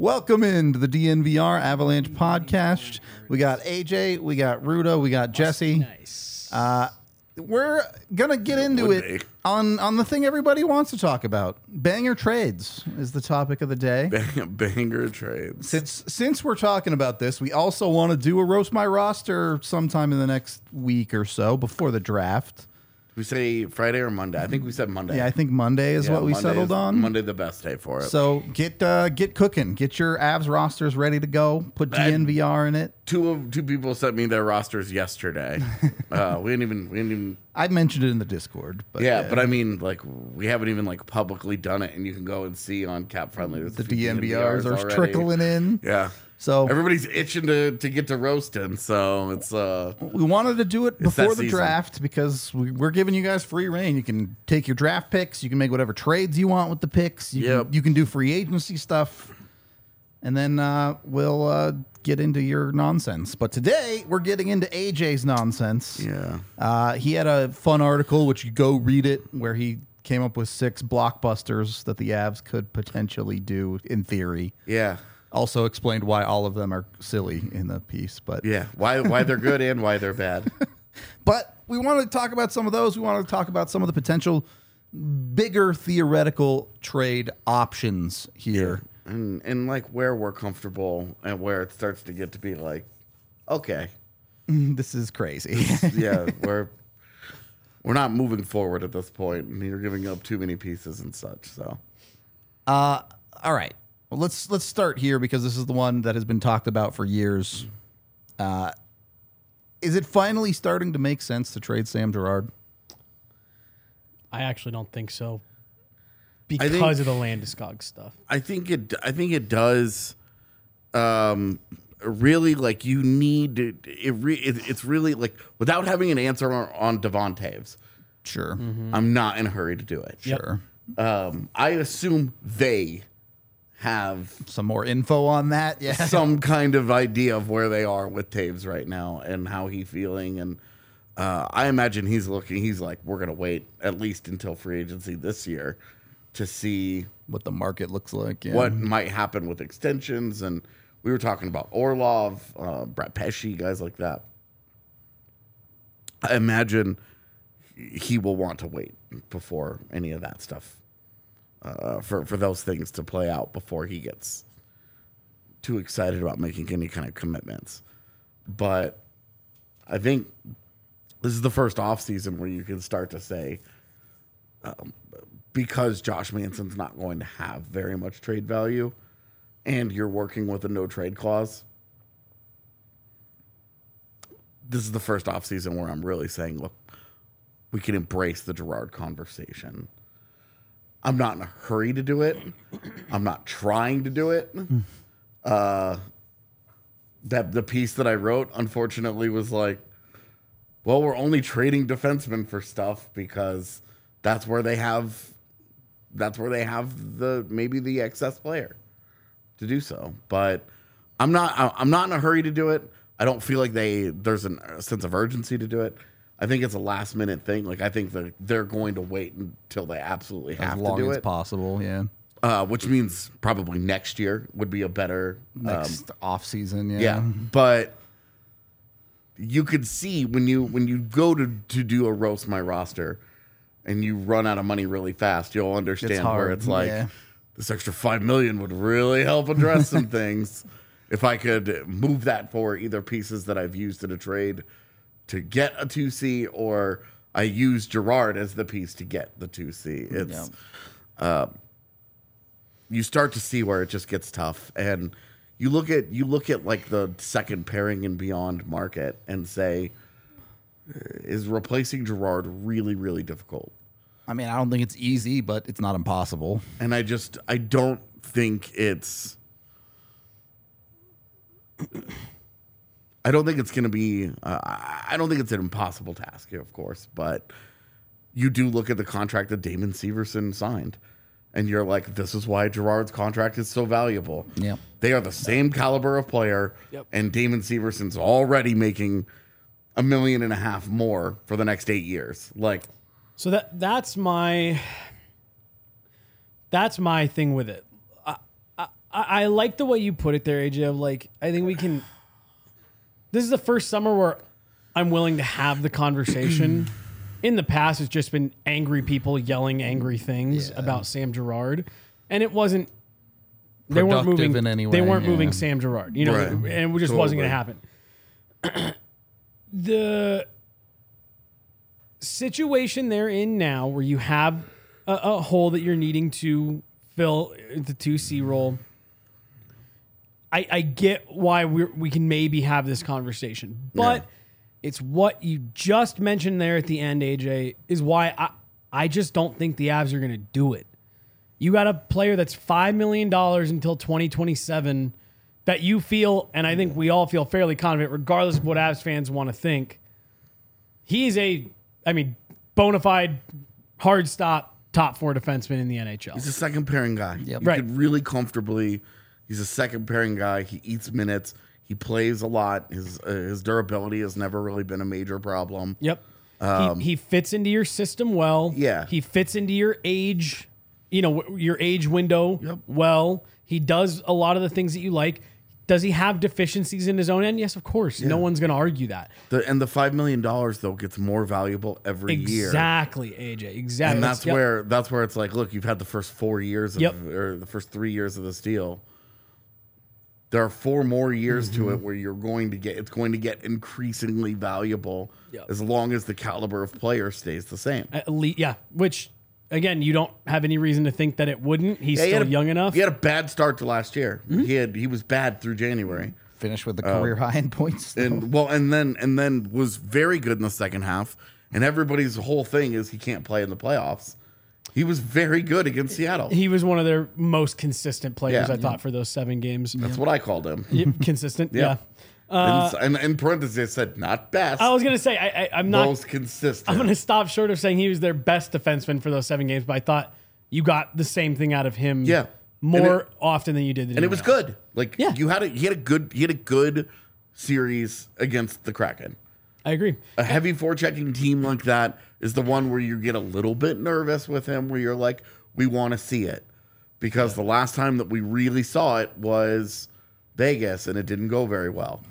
Welcome into the DNVR Avalanche podcast. We got AJ, we got Ruda, we got Jesse. Nice. We're gonna get into it on the thing everybody wants to talk about. Banger trades is the topic of the day. Banger trades. Since we're talking about this, we also want to do a roast my roster sometime in the next week or so before the draft. We say Friday or Monday? I think we said Monday. Yeah, I think Monday is what we Monday settled is on. Monday the best day for it. So get cooking. Get your Avs rosters ready to go. Put DNVR in it. Two people sent me their rosters yesterday. we didn't even. I mentioned it in the Discord. But But I mean, like, we haven't even like publicly done it, and you can go and see on Cap Friendly. The DNVRs are already trickling in. Yeah. So everybody's itching to get to roasting. So it's we wanted to do it before the season. draft because we're giving you guys free reign. You can take your draft picks. You can make whatever trades you want with the picks. You can do free agency stuff, and then we'll get into your nonsense. But today we're getting into AJ's nonsense. Yeah. He had a fun article, which you go read it, where he came up with 6 blockbusters that the Avs could potentially do in theory. Yeah. Also explained why all of them are silly in the piece, but Yeah. Why they're good and why they're bad. But we wanted to talk about some of those. We wanted to talk about some of the potential bigger theoretical trade options here. And like where we're comfortable and where it starts to get to be like, okay, This is crazy. yeah, we're not moving forward at this point, and you're giving up too many pieces and such. So, All right. Well, let's start here because this is the one that has been talked about for years. Is it finally starting to make sense to trade Sam Girard? I actually don't think so because of the Landeskog stuff. I think it does. Really, like you need it. It's really like without having an answer on Devon Taves. Sure. I'm not in a hurry to do it. Sure. I assume they have Some more info on that? Yeah. some kind of idea of where they are with Taves right now and how he's feeling. And I imagine he's like, we're going to wait at least until free agency this year to see What the market looks like. Yeah. what might happen with extensions. And we were talking about Orlov, Brett Pesci, guys like that. I imagine he will want to wait before any of that stuff. For those things to play out before he gets too excited about making any kind of commitments. But I think this is the first offseason where you can start to say, because Josh Manson's not going to have very much trade value and you're working with a no trade clause, this is the first offseason where I'm really saying, look, we can embrace the Girard conversation. I'm not in a hurry to do it. I'm not trying to do it. That the piece that I wrote, unfortunately, was like, well, we're only trading defensemen for stuff because that's where they have the excess player to do so. But I'm not in a hurry to do it. I don't feel like there's a sense of urgency to do it. I think it's a last minute thing. Like I think they're going to wait until they absolutely have to do it. As long as possible, yeah. Which means probably next year would be a better Next off season, yeah. yeah. But you could see when you go to do a roast my roster and you run out of money really fast, you'll understand where it's like this extra $5 million would really help address some things. If I could move that for either pieces that I've used in a trade to get a 2C, or I use Girard as the piece to get the 2C. It's you start to see where it just gets tough, and you look at like the second pairing and beyond market and say, is replacing Girard really, really difficult? I mean, I don't think it's easy, but it's not impossible. And I don't think it's. I don't think it's going to be. I don't think it's an impossible task, of course. But you do look at the contract that Damon Severson signed, and you're like, "This is why Girard's contract is so valuable." Yep. They are the same caliber of player, and Damon Severson's already making $1.5 million more for the next 8 years. Like, So that's my thing with it. I like the way you put it there, AJ. Of like, I think we can. This is the first summer where I'm willing to have the conversation. In the past, it's just been angry people yelling angry things about Sam Girard, and it wasn't. They weren't moving in any way. They weren't moving Sam Girard, you know, and it just wasn't going to happen. The situation they're in now, where you have a hole that you're needing to fill the 2C role. I get why we can maybe have this conversation, but it's what you just mentioned there at the end, AJ, is why I just don't think the Avs are going to do it. You got a player that's $5 million until 2027 that you feel, and I think we all feel fairly confident, regardless of what Avs fans want to think. He's bona fide, hard stop, top 4 defenseman in the NHL. He's a second pairing guy. Yep. You could really comfortably. He's a second pairing guy. He eats minutes. He plays a lot. His durability has never really been a major problem. Yep. He fits into your system well. Yeah. He fits into your age, your age window well. He does a lot of the things that you like. Does he have deficiencies in his own end? Yes, of course. Yeah. No one's going to argue that. The $5 million though gets more valuable every year. Exactly, AJ. Exactly. And that's where it's like, look, you've had the first 4 years or the first 3 years of this deal. There are 4 more years to it where it's going to get increasingly valuable as long as the caliber of player stays the same. Which, again, you don't have any reason to think that it wouldn't. He's still young enough. He had a bad start to last year. He was bad through January. Finished with the career high in points. And then was very good in the second half. And everybody's whole thing is he can't play in the playoffs. He was very good against Seattle. He was one of their most consistent players, I thought, for those 7 games. That's what I called him. Consistent, yeah. And in parentheses, I said, not best. I was going to say, I'm not... Most consistent. I'm going to stop short of saying he was their best defenseman for those 7 games, but I thought you got the same thing out of him more often than you did. And it was good. He had a good series against the Kraken. I agree. A heavy forechecking team like that is the one where you get a little bit nervous with him, where you're like, we want to see it. Because the last time that we really saw it was Vegas, and it didn't go very well.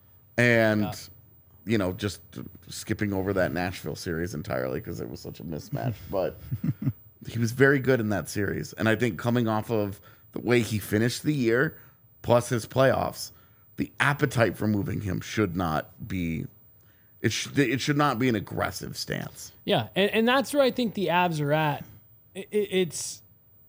And, just skipping over that Nashville series entirely because it was such a mismatch. But he was very good in that series. And I think coming off of the way he finished the year, plus his playoffs, the appetite for moving him should not be... It should not be an aggressive stance. Yeah, and that's where I think the Avs are at. It's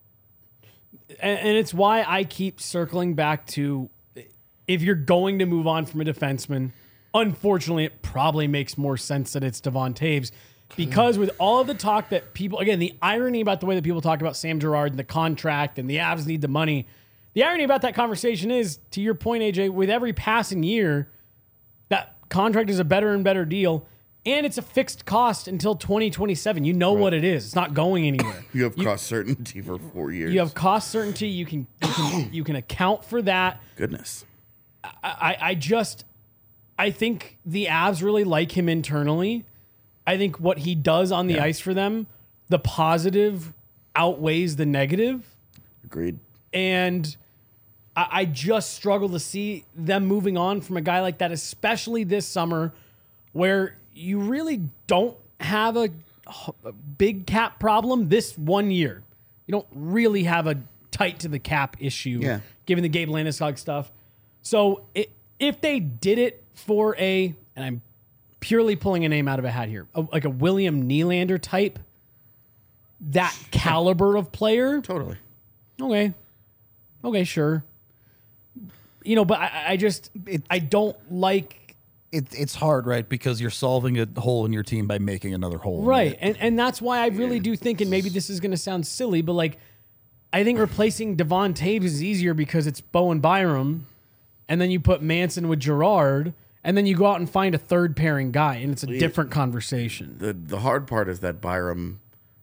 why I keep circling back to, if you're going to move on from a defenseman, unfortunately, it probably makes more sense that it's Devon Toews, because with all of the talk that people, again, the irony about the way that people talk about Sam Girard and the contract and the Avs need the money, the irony about that conversation is, to your point, AJ, with every passing year, that contract is a better and better deal, and it's a fixed cost until 2027. You know what it is. It's not going anywhere. You have cost certainty for 4 years. You have cost certainty. You can account for that. Goodness. I think the Avs really like him internally. I think what he does on the ice for them, the positive outweighs the negative. Agreed. And I just struggle to see them moving on from a guy like that, especially this summer, where you really don't have a big cap problem this 1 year. You don't really have a tight to the cap issue, given the Gabe Landeskog stuff. So if they did it for and I'm purely pulling a name out of a hat here, like a William Nylander type, that caliber of player. Totally. Okay, sure. But I don't like... It's hard, right? Because you're solving a hole in your team by making another hole. Right, and that's why I really do think, and maybe this is going to sound silly, but I think replacing Devon Toews is easier because it's Bowen Byram, and then you put Manson with Girard, and then you go out and find a third pairing guy, and it's a different conversation. The hard part is that Byram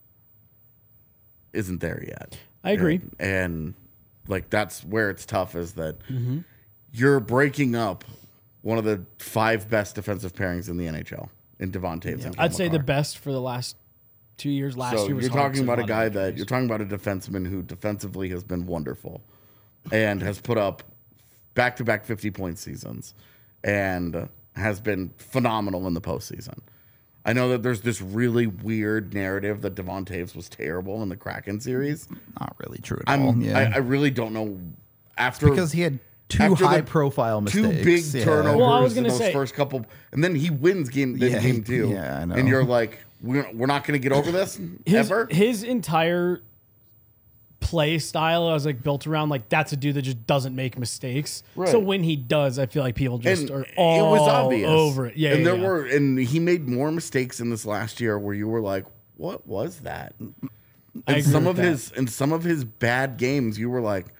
isn't there yet. I agree. And that's where it's tough, is that you're breaking up one of the 5 best defensive pairings in the NHL in Devon Toews. Yeah. I'd say the best for the last 2 years. Last year was you're talking about a guy that you're talking about a defenseman who defensively has been wonderful. and has put up back-to-back 50-point seasons and has been phenomenal in the postseason. I know that there's this really weird narrative that Devon Toews was terrible in the Kraken series. Not really true at all. Yeah. I really don't know. Because he had two high-profile mistakes. Two big turnovers well, I was in those first couple. And then he wins game 2. Yeah, I know. And you're like, we're not going to get over this ever? His entire play style, I was like, built around, like, that's a dude that just doesn't make mistakes. Right. So when he does, I feel like people just are all over it. Yeah, and he made more mistakes in this last year where you were like, what was that? And some of his bad games, you were like,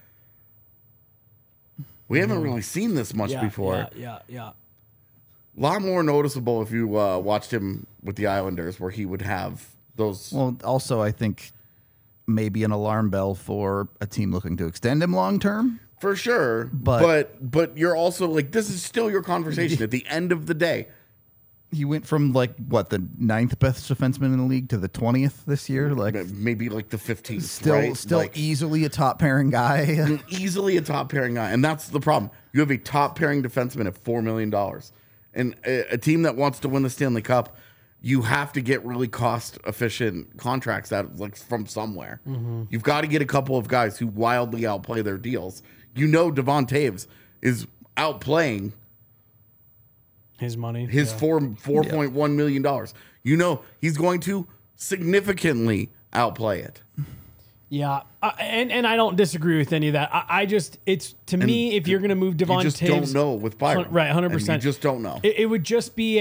we haven't really seen this much before. Yeah. A lot more noticeable if you watched him with the Islanders, where he would have those. Well, also, I think maybe an alarm bell for a team looking to extend him long term. For sure. But you're also like, this is still your conversation at the end of the day. He went from like what, the 9th best defenseman in the league to the 20th this year, like maybe like the 15th. Still like, easily a top pairing guy. Easily a top pairing guy, and that's the problem. You have a top pairing defenseman at $4 million, and a team that wants to win the Stanley Cup, you have to get really cost efficient contracts out like from somewhere. Mm-hmm. You've got to get a couple of guys who wildly outplay their deals. You know, Devon Toews is outplaying his money, his $4.1 million. You know, he's going to significantly outplay it. Yeah, and I don't disagree with any of that. I just, it's to me, if you're going to move Devon Toews, you just don't know with Byram, right? 100%. You just don't know. It would just be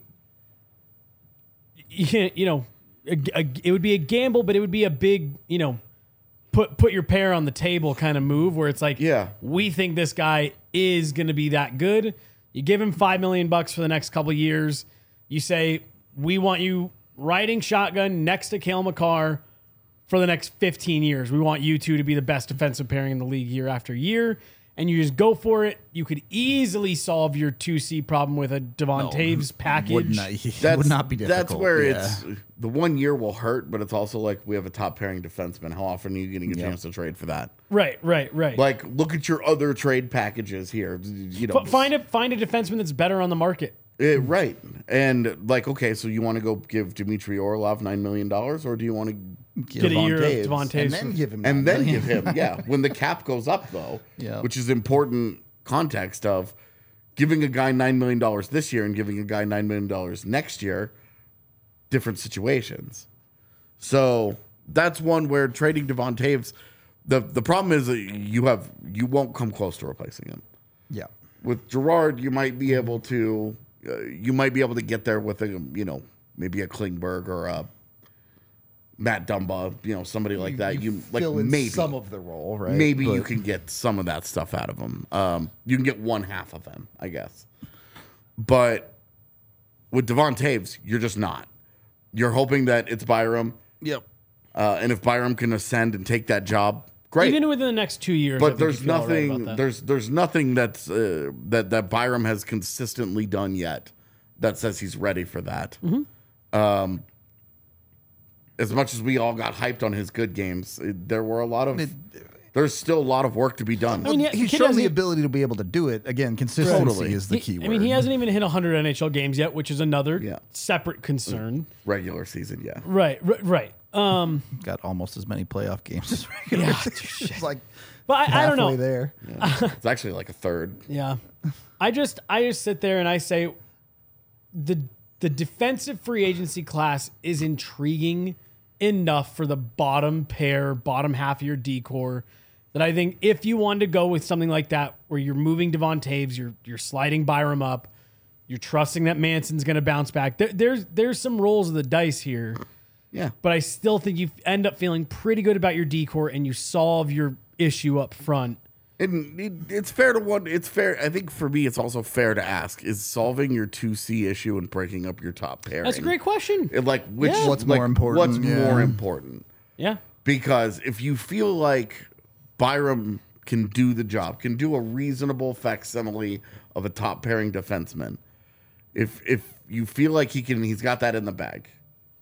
it would be a gamble, but it would be a big, put your pair on the table kind of move where it's like, we think this guy is going to be that good. You give him $5 million for the next couple of years. You say, we want you riding shotgun next to Cale Makar for the next 15 years. We want you two to be the best defensive pairing in the league year after year. And you just go for it. You could easily solve your 2C problem with a Devon Toews package. Would not be difficult. That's where it's the 1 year will hurt, but it's also like we have a top pairing defenseman. How often are you getting a chance to trade for that? Right. Like, look at your other trade packages here. Find a defenseman that's better on the market. Right. And like, okay, so you want to go give Dmitry Orlov $9 million, or do you want to get a year of Devon Toews and then give him when the cap goes up though, which is important context of giving a guy $9 million this year and giving a guy $9 million next year, different situations. So that's one where trading Devon Toews, the problem is that you won't come close to replacing him. Yeah. With Gerard, you might be able to get there with maybe a Klingberg or a Matt Dumba, somebody like that. You like maybe some of the role, right? Maybe you can get some of that stuff out of him. You can get one half of him, I guess. But with Devon Toews, you're just not. You're hoping that it's Byram. Yep. And if Byram can ascend and take that job, great. Even within the next 2 years. But there's nothing. There's nothing that's that Byram has consistently done yet that says he's ready for that. Mm-hmm. As much as we all got hyped on his good games, there were a lot of. There's still a lot of work to be done. I mean, he's shown the ability to be able to do it. Again, consistency is the key word. I mean, he hasn't even hit 100 NHL games yet, which is another separate concern. Regular season, yeah. Right. Got almost as many playoff games as regular season. It's like, but I don't know. There. Yeah. It's actually like a third. Yeah. I just sit there and I say the defensive free agency class is intriguing enough for the bottom half of your decor that I think if you wanted to go with something like that where you're moving Devon Toews, you're sliding Byram up, you're trusting that Manson's going to bounce back. There's some rolls of the dice here. Yeah. But I still think you end up feeling pretty good about your decor and you solve your issue up front. It's fair to it's fair. I think for me, it's also fair to ask: is solving your 2C issue and breaking up your top pairing? That's a great question. What's more important? What's more important? Yeah. Because if you feel like Byram can do the job, can do a reasonable facsimile of a top pairing defenseman, if you feel like he's got that in the bag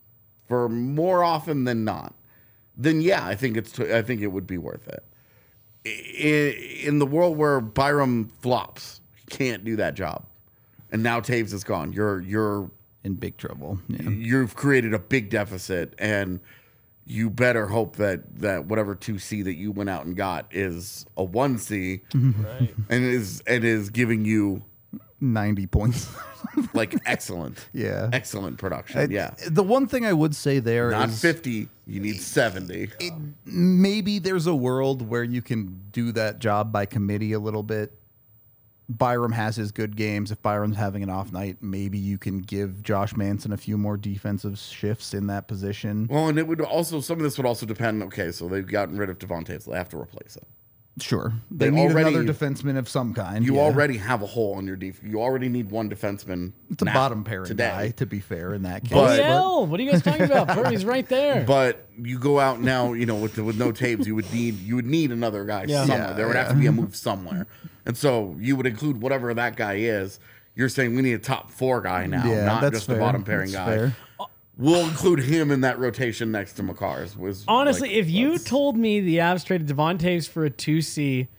for more often than not, then yeah, I think it would be worth it. in the world where Byram flops, he can't do that job. And now Taves is gone. You're in big trouble. Yeah. You've created a big deficit, and you better hope that whatever 2C that you went out and got is a 1C, right? and is giving you 90 points. Like excellent production. The one thing I would say there not is 50, you need 70. Maybe there's a world where you can do that job by committee a little bit. Byram has his good games. If Byram's having an off night, maybe you can give Josh Manson a few more defensive shifts in that position. Well, and it would also, some of this would also depend. Okay, so they've gotten rid of Devontae, so they have to replace him. Sure. They need another defenseman of some kind. You already have a hole on your defense. You already need one defenseman. It's a bottom pairing guy, to be fair, in that case. But, what are you guys talking about? He's right there. But you go out now, with no Taves, you would need another guy somewhere. There would have to be a move somewhere. And so you would include whatever that guy is. You're saying we need a top 4 guy now, not just a bottom pairing guy. Fair. We'll include him in that rotation next to Makar. Honestly, if you told me the Avs traded Devontae for a 2C,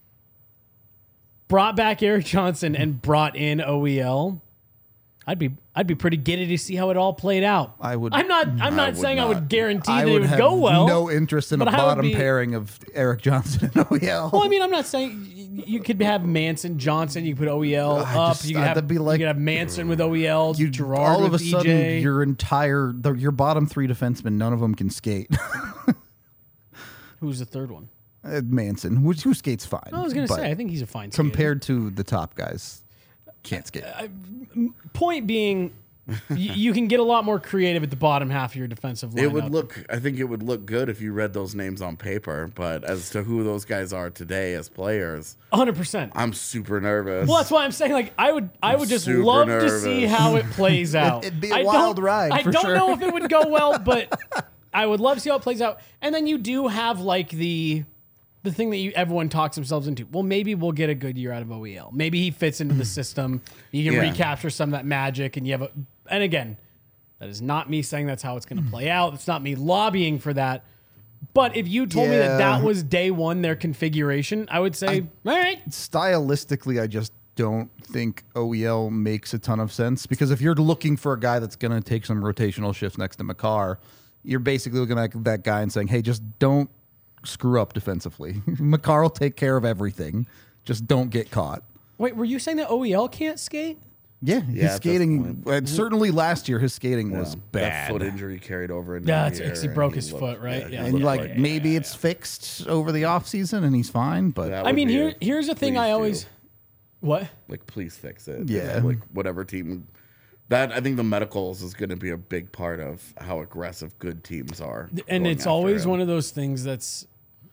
brought back Erik Johnson, and brought in OEL, I'd be pretty giddy to see how it all played out. I'm not saying I would guarantee that it would go well. No interest in a bottom pairing of Erik Johnson and OEL. Well, I mean, I'm not saying you could have Manson, Johnson. You could put OEL up. You could have Manson with OEL. Gerard all of a DJ. Sudden, your bottom 3 defensemen, none of them can skate. Who's the third one? Manson, who skates fine. I was going to say, I think he's a fine skater. Compared to the top guys. Can't skate. Point being, you can get a lot more creative at the bottom half of your defensive lineup. I think it would look good if you read those names on paper, but as to who those guys are today as players, 100%. I'm super nervous. Well, that's why I'm saying, I would just love to see how it plays out. It'd be a wild ride. I don't know if it would go well, but I would love to see how it plays out. And then you do have the thing that everyone talks themselves into. Well, maybe we'll get a good year out of OEL. Maybe he fits into the system. You can recapture some of that magic, and you have and again, that is not me saying that's how it's going to play out. It's not me lobbying for that. But if you told me that was day one, their configuration, I would say, all right. Stylistically, I just don't think OEL makes a ton of sense, because if you're looking for a guy that's going to take some rotational shifts next to Makar, you're basically looking at that guy and saying, hey, just don't screw up defensively. Makar will take care of everything. Just don't get caught. Wait, were you saying that OEL can't skate? Yeah, his skating. Certainly last year, his skating was bad. That foot injury carried over. He broke his foot, right? Yeah. And maybe it's fixed over the offseason and he's fine. But I mean, here's the thing I always... What? Please fix it. Yeah. Whatever team... That, I think the medicals is going to be a big part of how aggressive good teams are. And it's always one of those things that's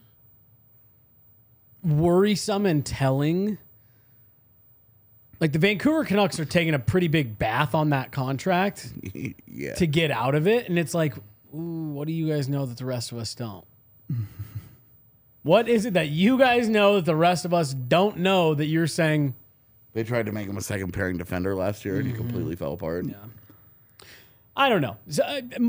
worrisome and telling. Like, the Vancouver Canucks are taking a pretty big bath on that contract to get out of it. And it's like, ooh, what do you guys know that the rest of us don't? What is it that you guys know that the rest of us don't know that you're saying... They tried to make him a second pairing defender last year, and he completely fell apart. Yeah, I don't know. So,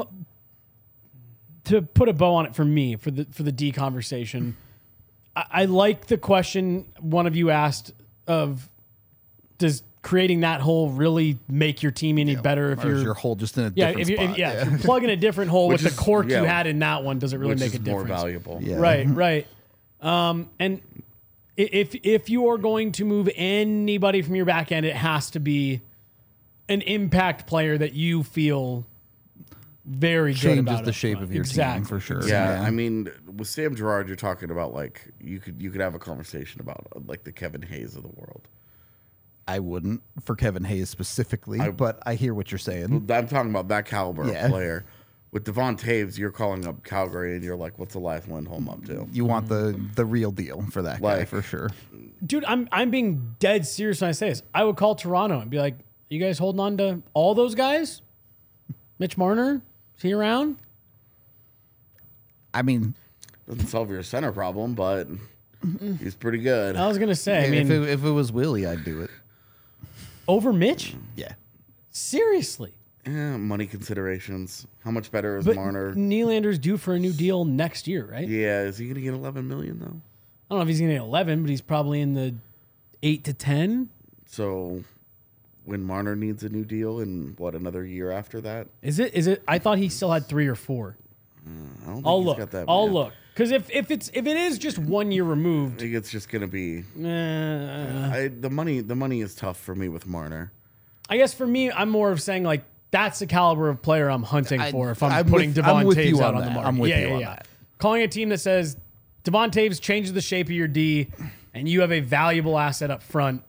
to put a bow on it for me, for the D conversation, I like the question one of you asked of, does creating that hole really make your team any better if your hole just in a different spot? If you plug in a different hole with the cork you had in that one, does it really make a difference? More valuable. Yeah. Right. And if you are going to move anybody from your back end, it has to be an impact player that you feel very good about. Changes the shape of your team for sure. Yeah, I mean, with Sam Girard, you're talking about you could have a conversation about the Kevin Hayes of the world. I wouldn't for Kevin Hayes specifically, but I hear what you're saying. I'm talking about that caliber of player. With Devon Taves, you're calling up Calgary, and you're like, "What's Elias Lindholm up to?" You want the real deal for that guy for sure, dude. I'm being dead serious when I say this. I would call Toronto and be like, "You guys holding on to all those guys? Mitch Marner, is he around?" I mean, doesn't solve your center problem, but he's pretty good. I was gonna say, if it was Willie, I'd do it over Mitch. Yeah, seriously. Money considerations. How much better is but Marner? Nylander's due for a new deal next year, right? Yeah, is he going to get $11 million though? don't know if he's going to get 11, but he's probably in the 8 to 10. So when Marner needs a new deal in another year after that? Is it? I thought he still had 3 or 4. I don't think I'll he's look. got that I'll many. look. Because if it is just 1 year I removed, think it's just going to be the money is tough for me with Marner. I guess for me, I'm more of saying like that's the caliber of player I'm hunting for if I'm putting I'm Devon with Taves you out on on the that. market. I'm with you on that. Calling a team that says Devon Taves changes the shape of your D and you have a valuable asset up front.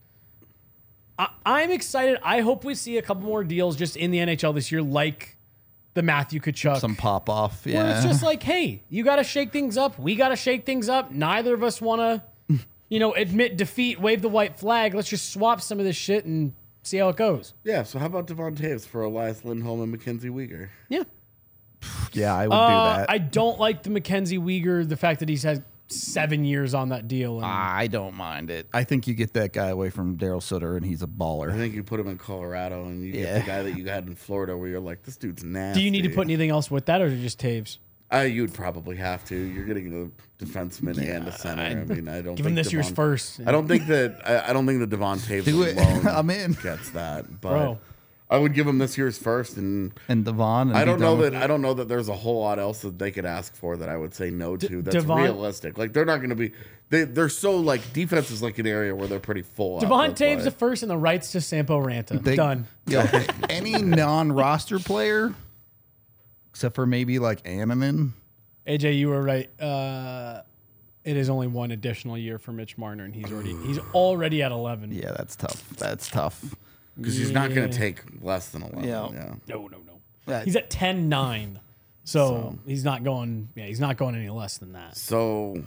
I'm excited. I hope we see a couple more deals just in the NHL this year, like the Matthew Tkachuk. Some pop off. Yeah. Where it's just like, hey, you got to shake things up. We got to shake things up. Neither of us want to, admit defeat, wave the white flag. Let's just swap some of this shit and see how it goes. Yeah, so how about Devon Taves for Elias Lindholm and Mackenzie Weegar? Yeah. Yeah, I would do that. I don't like the Mackenzie Weegar, the fact that he's had 7 years on that deal. And I don't mind it. I think you get that guy away from Daryl Sutter, and he's a baller. I think you put him in Colorado, and you get the guy that you had in Florida, where you're like, this dude's nasty. do you need to put anything else with that, or is it just Taves? You'd probably have to. You're getting a defenseman and a center. I mean, I don't Give think him this year's first. I don't think that Devon Taves Do it. alone I'm in. gets that. But Bro. I would give him this year's first, and Devon. I don't know that there's a whole lot else that they could ask for that I would say no to. That's Devon- realistic. Like they're not going to be. They're so like defense is like an area where they're pretty full. Devon Taves the first and the rights to Sampo Ranta. Done. Yo, any non-roster player, except for maybe like Anneman. AJ, you were right. It is only one additional year for Mitch Marner, and he's already at 11. Yeah, that's tough. because he's not going to take less than 11. Yeah. No. He's at 10-9. So he's not going. Yeah, he's not going any less than that. So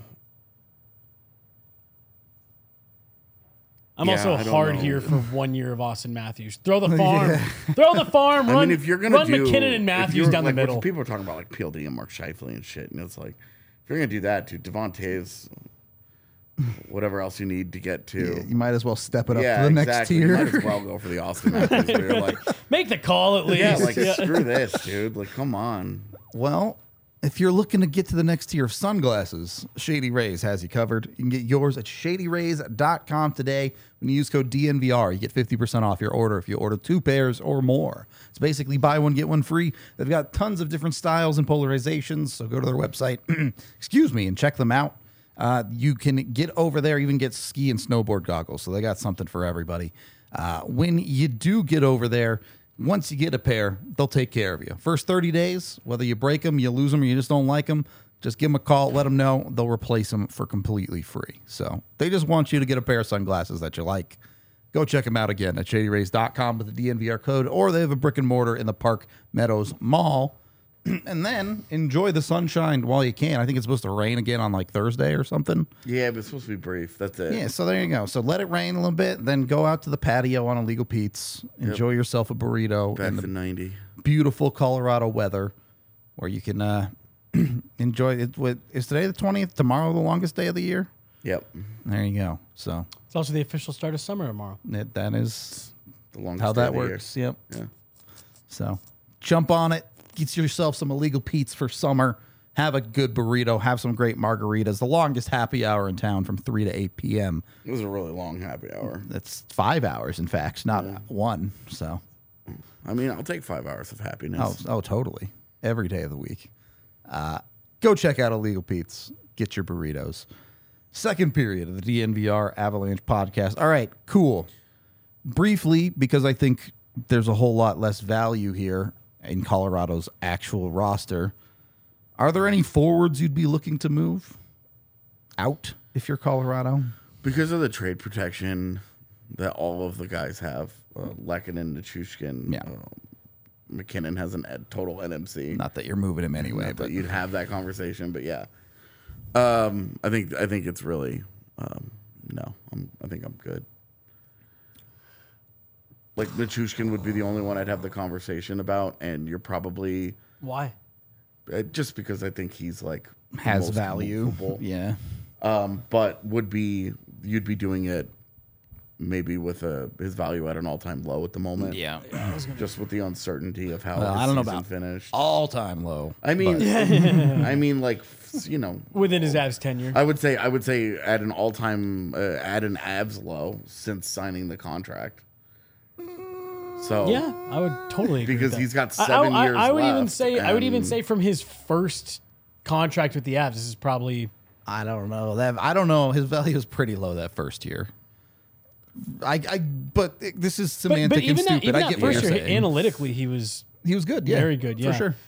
I'm Yeah, also I don't hard know. here for 1 year of Austin Matthews. Throw the farm. Throw the farm. Run, I mean, if you're gonna run do McKinnon and if Matthews you're- down the like, what middle. people are talking about like PLD and Mark Scheifele and shit, and it's like if you're gonna do that, dude, Devon Taves, whatever else you need to get to. Yeah, you might as well step it up Yeah, to the next exactly. tier. You might as well go for the Austin Matthews. Where you're like, Make the call at least. yeah, like screw this, dude. Like, come on. Well, if you're looking to get to the next tier of sunglasses, Shady Rays has you covered. You can get yours at shadyrays.com today. When you use code DNVR, you get 50% off your order if you order 2 pairs or more. It's basically buy one, get one free. They've got tons of different styles and polarizations, so go to their website, and check them out. You can get over there, even get ski and snowboard goggles, so they got something for everybody. When you do get over there, once you get a pair, they'll take care of you. First 30 days, whether you break them, you lose them, or you just don't like them, just give them a call, let them know. They'll replace them for completely free. So they just want you to get a pair of sunglasses that you like. Go check them out again at shadyrays.com with the DNVR code, or they have a brick and mortar in the Park Meadows Mall. And then enjoy the sunshine while you can. I think it's supposed to rain again on like Thursday or something. Yeah, but it's supposed to be brief. That's it. Yeah, so there you go. So let it rain a little bit, then go out to the patio on Illegal Pete's, enjoy yourself a burrito Back in to the 90. beautiful Colorado weather, where you can enjoy it. Is today the 20th? Tomorrow the longest day of the year? Yep. There you go. So It's also the official start of summer tomorrow. that is The longest how day that of the works. Yep. year. So jump on it. Get yourself some Illegal Pete's for summer. Have a good burrito. Have some great margaritas. The longest happy hour in town from 3 to 8 p.m. Yeah. It was a really long happy hour. That's 5 hours, in fact, not one. So, I mean, I'll take 5 hours of happiness. oh, totally. Every day of the week. Go check out Illegal Pete's. Get your burritos. Second period of the DNVR Avalanche podcast. All right, cool. Briefly, because I think there's a whole lot less value here in Colorado's actual roster. Are there any forwards you'd be looking to move out if you're Colorado? Because of the trade protection that all of the guys have, Lehkonen, Nichushkin, Yeah. McKinnon has a total NMC. Not that you're moving him anyway, Not but that you'd have that conversation, but yeah. I think it's really no. I think I'm good. Like Nichushkin would be the only one I'd have the conversation about, and you're probably Why? just because I think he's like has most value. movable. Yeah. But you'd be doing it maybe with his value at an all-time low at the moment. Yeah. Just with the uncertainty of how I don't know about finished. All-time low. I mean, I mean, like, you know, within his Avs tenure. I would say at an all-time at an Avs low since signing the contract. So yeah, I would totally agree because with that. he's got 7 years. I would left, even say from his first contract with the Avs, this is probably. I don't know. I don't know. His value is pretty low that first year. But this is semantic and stupid. I get what you're saying. Analytically, he was good. Yeah, very good. Yeah, for sure.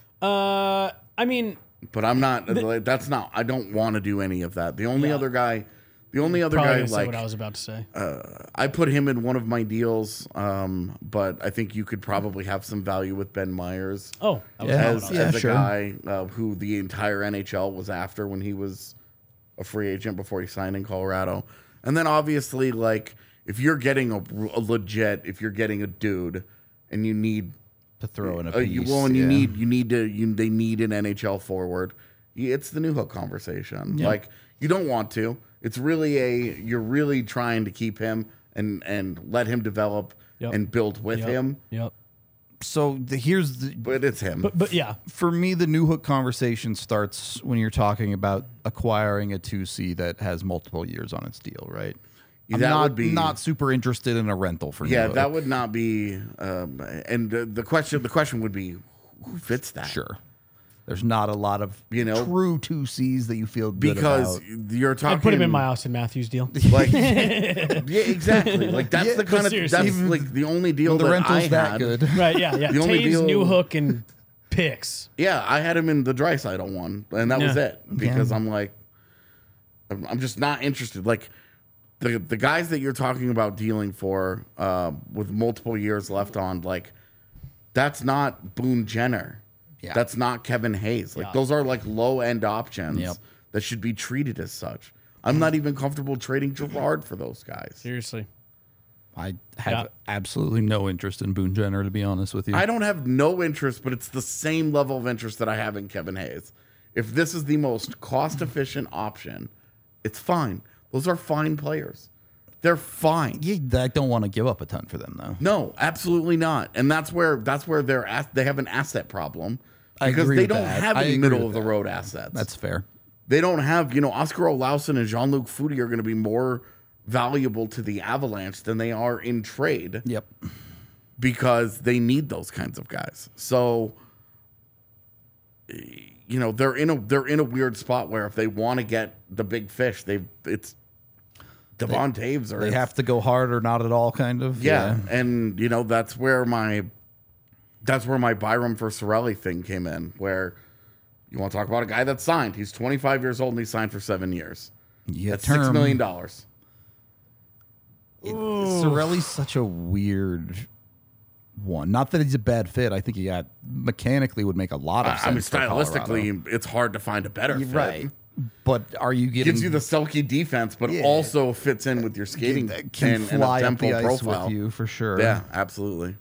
I mean, but I'm not. That's not. I don't want to do any of that. The only other guy, like what I was about to say. I put him in one of my deals, but I think you could probably have some value with Ben Myers. Oh, as a guy who the entire NHL was after when he was a free agent before he signed in Colorado, and then obviously like. If you're getting if you're getting a dude, and you need to throw in a piece, they need an NHL forward. It's the Newhook conversation. Yeah. Like you don't want to. It's really you're really trying to keep him and let him develop and build with him. Yep. So but it's him. But yeah, for me, the Newhook conversation starts when you're talking about acquiring a 2C that has multiple years on its deal, right? I'm not super interested in a rental for Newhook. That would not be. And the question would be, who fits that? Sure, there's not a lot of true 2Cs that you feel good because about. You're talking. I'd put him in my Austin Matthews deal. Like, yeah, exactly. Like that's the kind of that's like the only deal the that rental's I that had. Good, right? Yeah. The only deal, Newhook and picks. Yeah, I had him in the Draisaitl one, and that was it because I'm like, I'm just not interested. Like. The guys that you're talking about dealing for with multiple years left on, like, that's not Boone Jenner. Yeah. That's not Kevin Hayes. Like, those are, like, low-end options that should be treated as such. I'm not even comfortable trading Gerard for those guys. Seriously. I have absolutely no interest in Boone Jenner, to be honest with you. I don't have no interest, but it's the same level of interest that I have in Kevin Hayes. If this is the most cost-efficient option, it's fine. Those are fine players. They're fine. I don't want to give up a ton for them, though. No, absolutely not. And that's where they have an asset problem because they don't have any middle of the road assets. That's fair. They don't have, Oscar Olausson and Jean-Luc Foudy are going to be more valuable to the Avalanche than they are in trade. Yep. Because they need those kinds of guys. So, they're in a weird spot where if they want to get the big fish, it's Devon Toews, or they have to go hard or not at all, kind of. Yeah. And that's where my Byram for Cirelli thing came in. Where you want to talk about a guy that's signed? He's 25 years old and he signed for 7 years. That's $6 million. Cirelli's such a weird one. Not that he's a bad fit. I think he mechanically would make a lot of sense. I mean, stylistically, it's hard to find a better fit. Right. But are you getting... Gives you the Selke defense, but also fits in with your skating can fly up the ice profile. With you, for sure. Yeah, absolutely.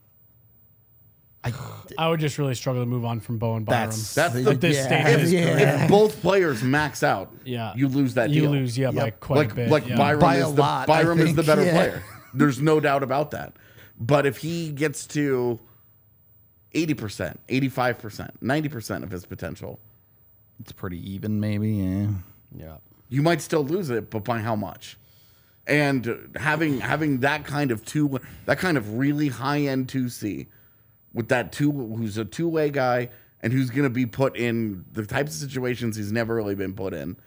I would just really struggle to move on from Bowen Byram. That's at this stage of his career. If both players max out, you lose that deal. You lose, by quite a bit. Like Byram is the better player. There's no doubt about that. But if he gets to 80%, 85%, 90% of his potential... It's pretty even, maybe. Yeah. You might still lose it, but by how much? And having that kind of really high end 2C with who's a two-way guy and who's going to be put in the types of situations he's never really been put in.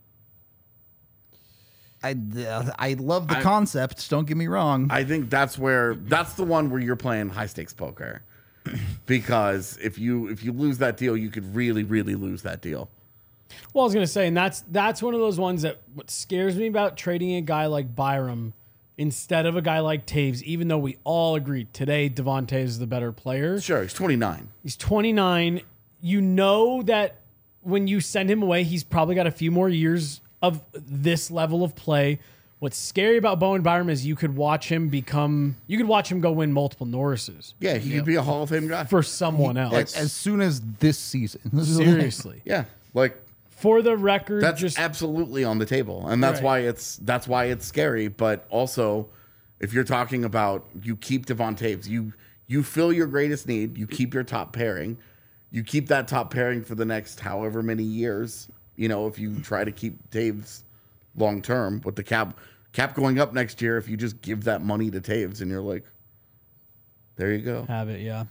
I love the concept. Don't get me wrong. I think that's the one where you're playing high stakes poker. Because if you lose that deal, you could really, really lose that deal. Well, I was gonna say, and that's one of those ones that what scares me about trading a guy like Byram instead of a guy like Toews, even though we all agree today Devon Toews is the better player. Sure, he's 29. He's 29. You know that when you send him away, he's probably got a few more years of this level of play. What's scary about Bowen Byram is you could watch him go win multiple Norrises. Yeah, he could be a Hall of Fame guy. For someone else. As soon as this season. Seriously. Yeah. Like, for the record, that's absolutely on the table. And that's why it's scary, but also If you're talking about you keep Devon Toews, you fill your greatest need, you keep your top pairing, you keep that top pairing for the next however many years. You know, if you try to keep Toews long term with the cap going up next year, if you just give that money to Toews and you're like, there you go, have it, yeah.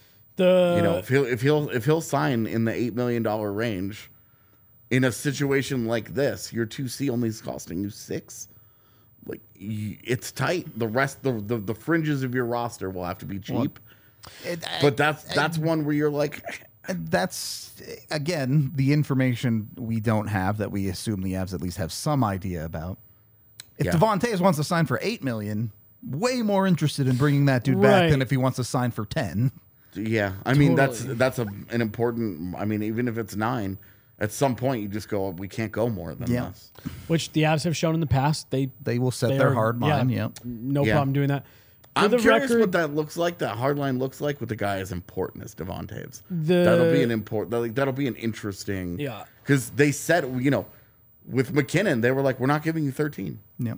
If he'll sign in the $8 million range in a situation like this, your 2C only is costing you $6 million. Like, it's tight. The rest, the fringes of your roster will have to be cheap. But that's one where you're like, that's again the information we don't have that we assume the Avs at least have some idea about. If Devon Toews wants to sign for $8 million, way more interested in bringing that dude back than if he wants to sign for 10. Yeah, I mean that's an important. I mean, even if it's 9. At some point, you just go, we can't go more than this. Which the Avs have shown in the past. They will set their hard line. Yeah. No problem doing that. I'm curious what that looks like. That hard line looks like with a guy as important as Devon Toews. That'll be an interesting. Yeah. Because they said, with McKinnon, they were like, we're not giving you 13. Yep.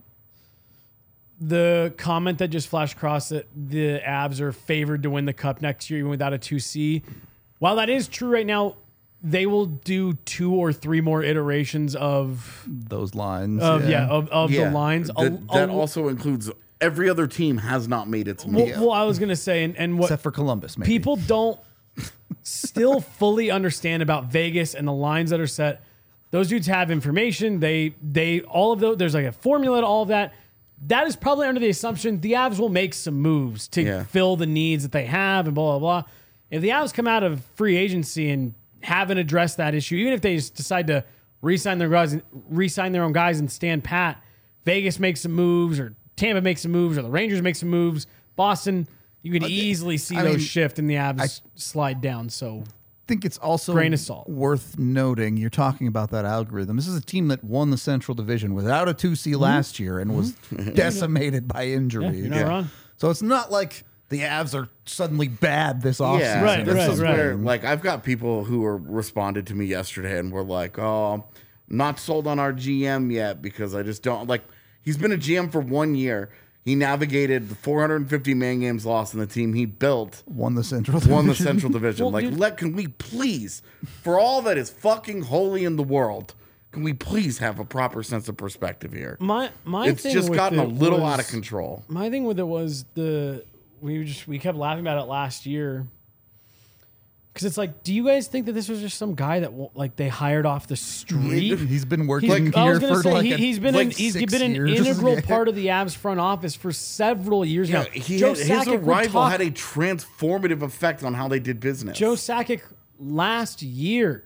The comment that just flashed across that the Avs are favored to win the Cup next year even without a 2C. While that is true right now, they will do 2 or 3 more iterations of those lines. The lines. That also includes every other team has not made its move. Well, I was going to say, and what except for Columbus, maybe. People don't still fully understand about Vegas and the lines that are set. Those dudes have information. They all of those. There's like a formula to all of that. That is probably under the assumption the Avs will make some moves to fill the needs that they have and blah, blah, blah. If the Avs come out of free agency and haven't addressed that issue, even if they just decide to re-sign their own guys and stand pat, Vegas makes some moves, or Tampa makes some moves, or the Rangers make some moves, Boston, you could easily see those shift and the Avs slide down. So I think it's also grain of salt. Worth noting, you're talking about that algorithm. This is a team that won the Central Division without a 2C last year and was decimated by injury. You're not wrong. So it's not like the Avs are suddenly bad this offseason. Yeah, this is where, like, I've got people who responded to me yesterday and were like, "Oh, not sold on our GM yet because I just don't like." He's been a GM for 1 year. He navigated the 450 man games lost in the team he built. Won the Central Division. Well, can we please, for all that is fucking holy in the world, can we please have a proper sense of perspective here? It's thing just gotten a little out of control. My thing with it was we kept laughing about it last year. Because it's like, do you guys think that this was just some guy that they hired off the street? He's been working here for he's been an integral part of the Avs front office for several years now. His arrival had a transformative effect on how they did business. Joe Sakic last year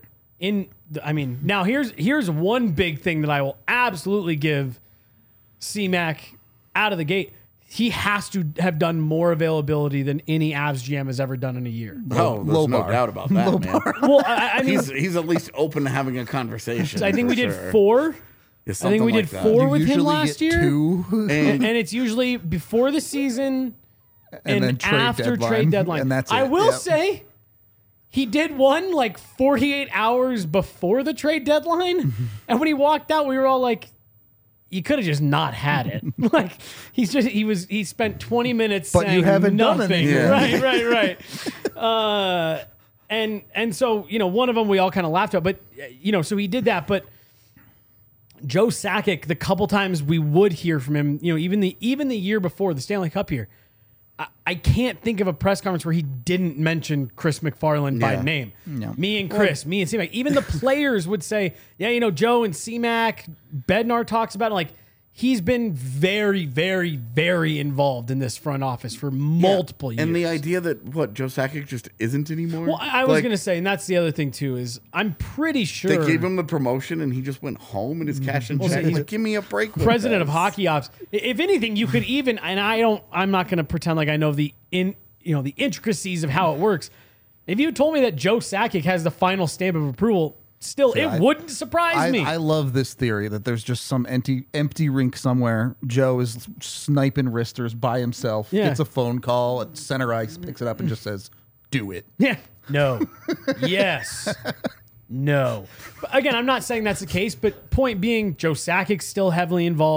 now here's one big thing that I will absolutely give C-Mac out of the gate. He has to have done more availability than any Avs GM has ever done in a year. Oh, there's no doubt about that, man. Well, I mean, he's at least open to having a conversation. I think we did 4. Yeah, I think we did 4 with him last year. 2. And it's usually before the season and after trade deadline. And that's it. I will say he did one like 48 hours before the trade deadline. And when he walked out, we were all like, you could have just not had it. Like he spent 20 minutes but saying you haven't nothing. Done anything. Right. And so, one of them we all kind of laughed at, but so he did that. But Joe Sakic, the couple times we would hear from him, even the year before the Stanley Cup year, I can't think of a press conference where he didn't mention Chris McFarland by name. No. Me and Chris, me and C-Mac. Even the players would say, Joe and C-Mac, Bednar talks about it. Like, he's been very, very, very involved in this front office for multiple years. And the idea that, Joe Sakic just isn't anymore? Well, I was going to say, and that's the other thing, too, is I'm pretty sure... They gave him the promotion, and he just went home and his cash and check. He's like, give me a break with President of Hockey Ops. If anything, you could even... And I'm not going to pretend like I know the intricacies of how it works. If you told me that Joe Sakic has the final stamp of approval... Still, it wouldn't surprise me. I love this theory that there's just some empty rink somewhere. Joe is sniping wristers by himself, gets a phone call at center ice, picks it up and just says, do it. Yeah. No. Yes. No. But again, I'm not saying that's the case, but point being, Joe Sakic's still heavily involved.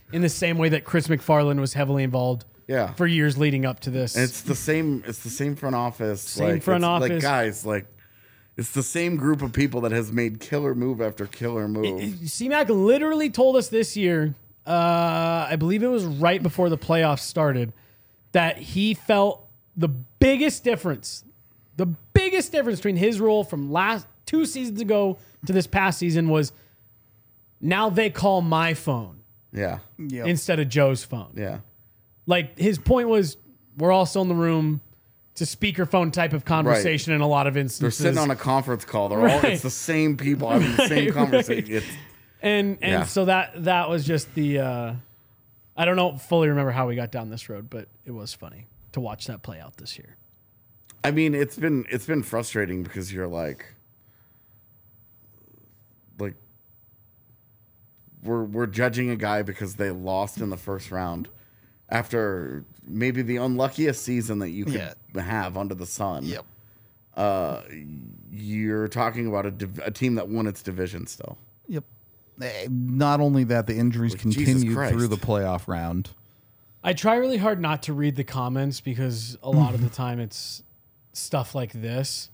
in the same way that Chris McFarland was heavily involved for years leading up to this. And it's the same front office. Same front office. Like, guys, like, it's the same group of people that has made killer move after killer move. C-Mac literally told us this year, I believe it was right before the playoffs started, that he felt the biggest difference between his role from last 2 seasons ago to this past season was now they call my phone instead of Joe's phone. Yeah. Like, his point was, we're all still in the room. It's a speakerphone type of conversation in a lot of instances. They're sitting on a conference call. They're all, it's the same people having the same conversation. And so that was just the, I don't fully remember how we got down this road, but it was funny to watch that play out this year. I mean, it's been frustrating because you're like we're judging a guy because they lost in the first round after maybe the unluckiest season that you could have under the sun. Yep. You're talking about a team that won its division still. Yep. Not only that, the injuries continued through the playoff round. I try really hard not to read the comments because a lot of the time it's stuff like this.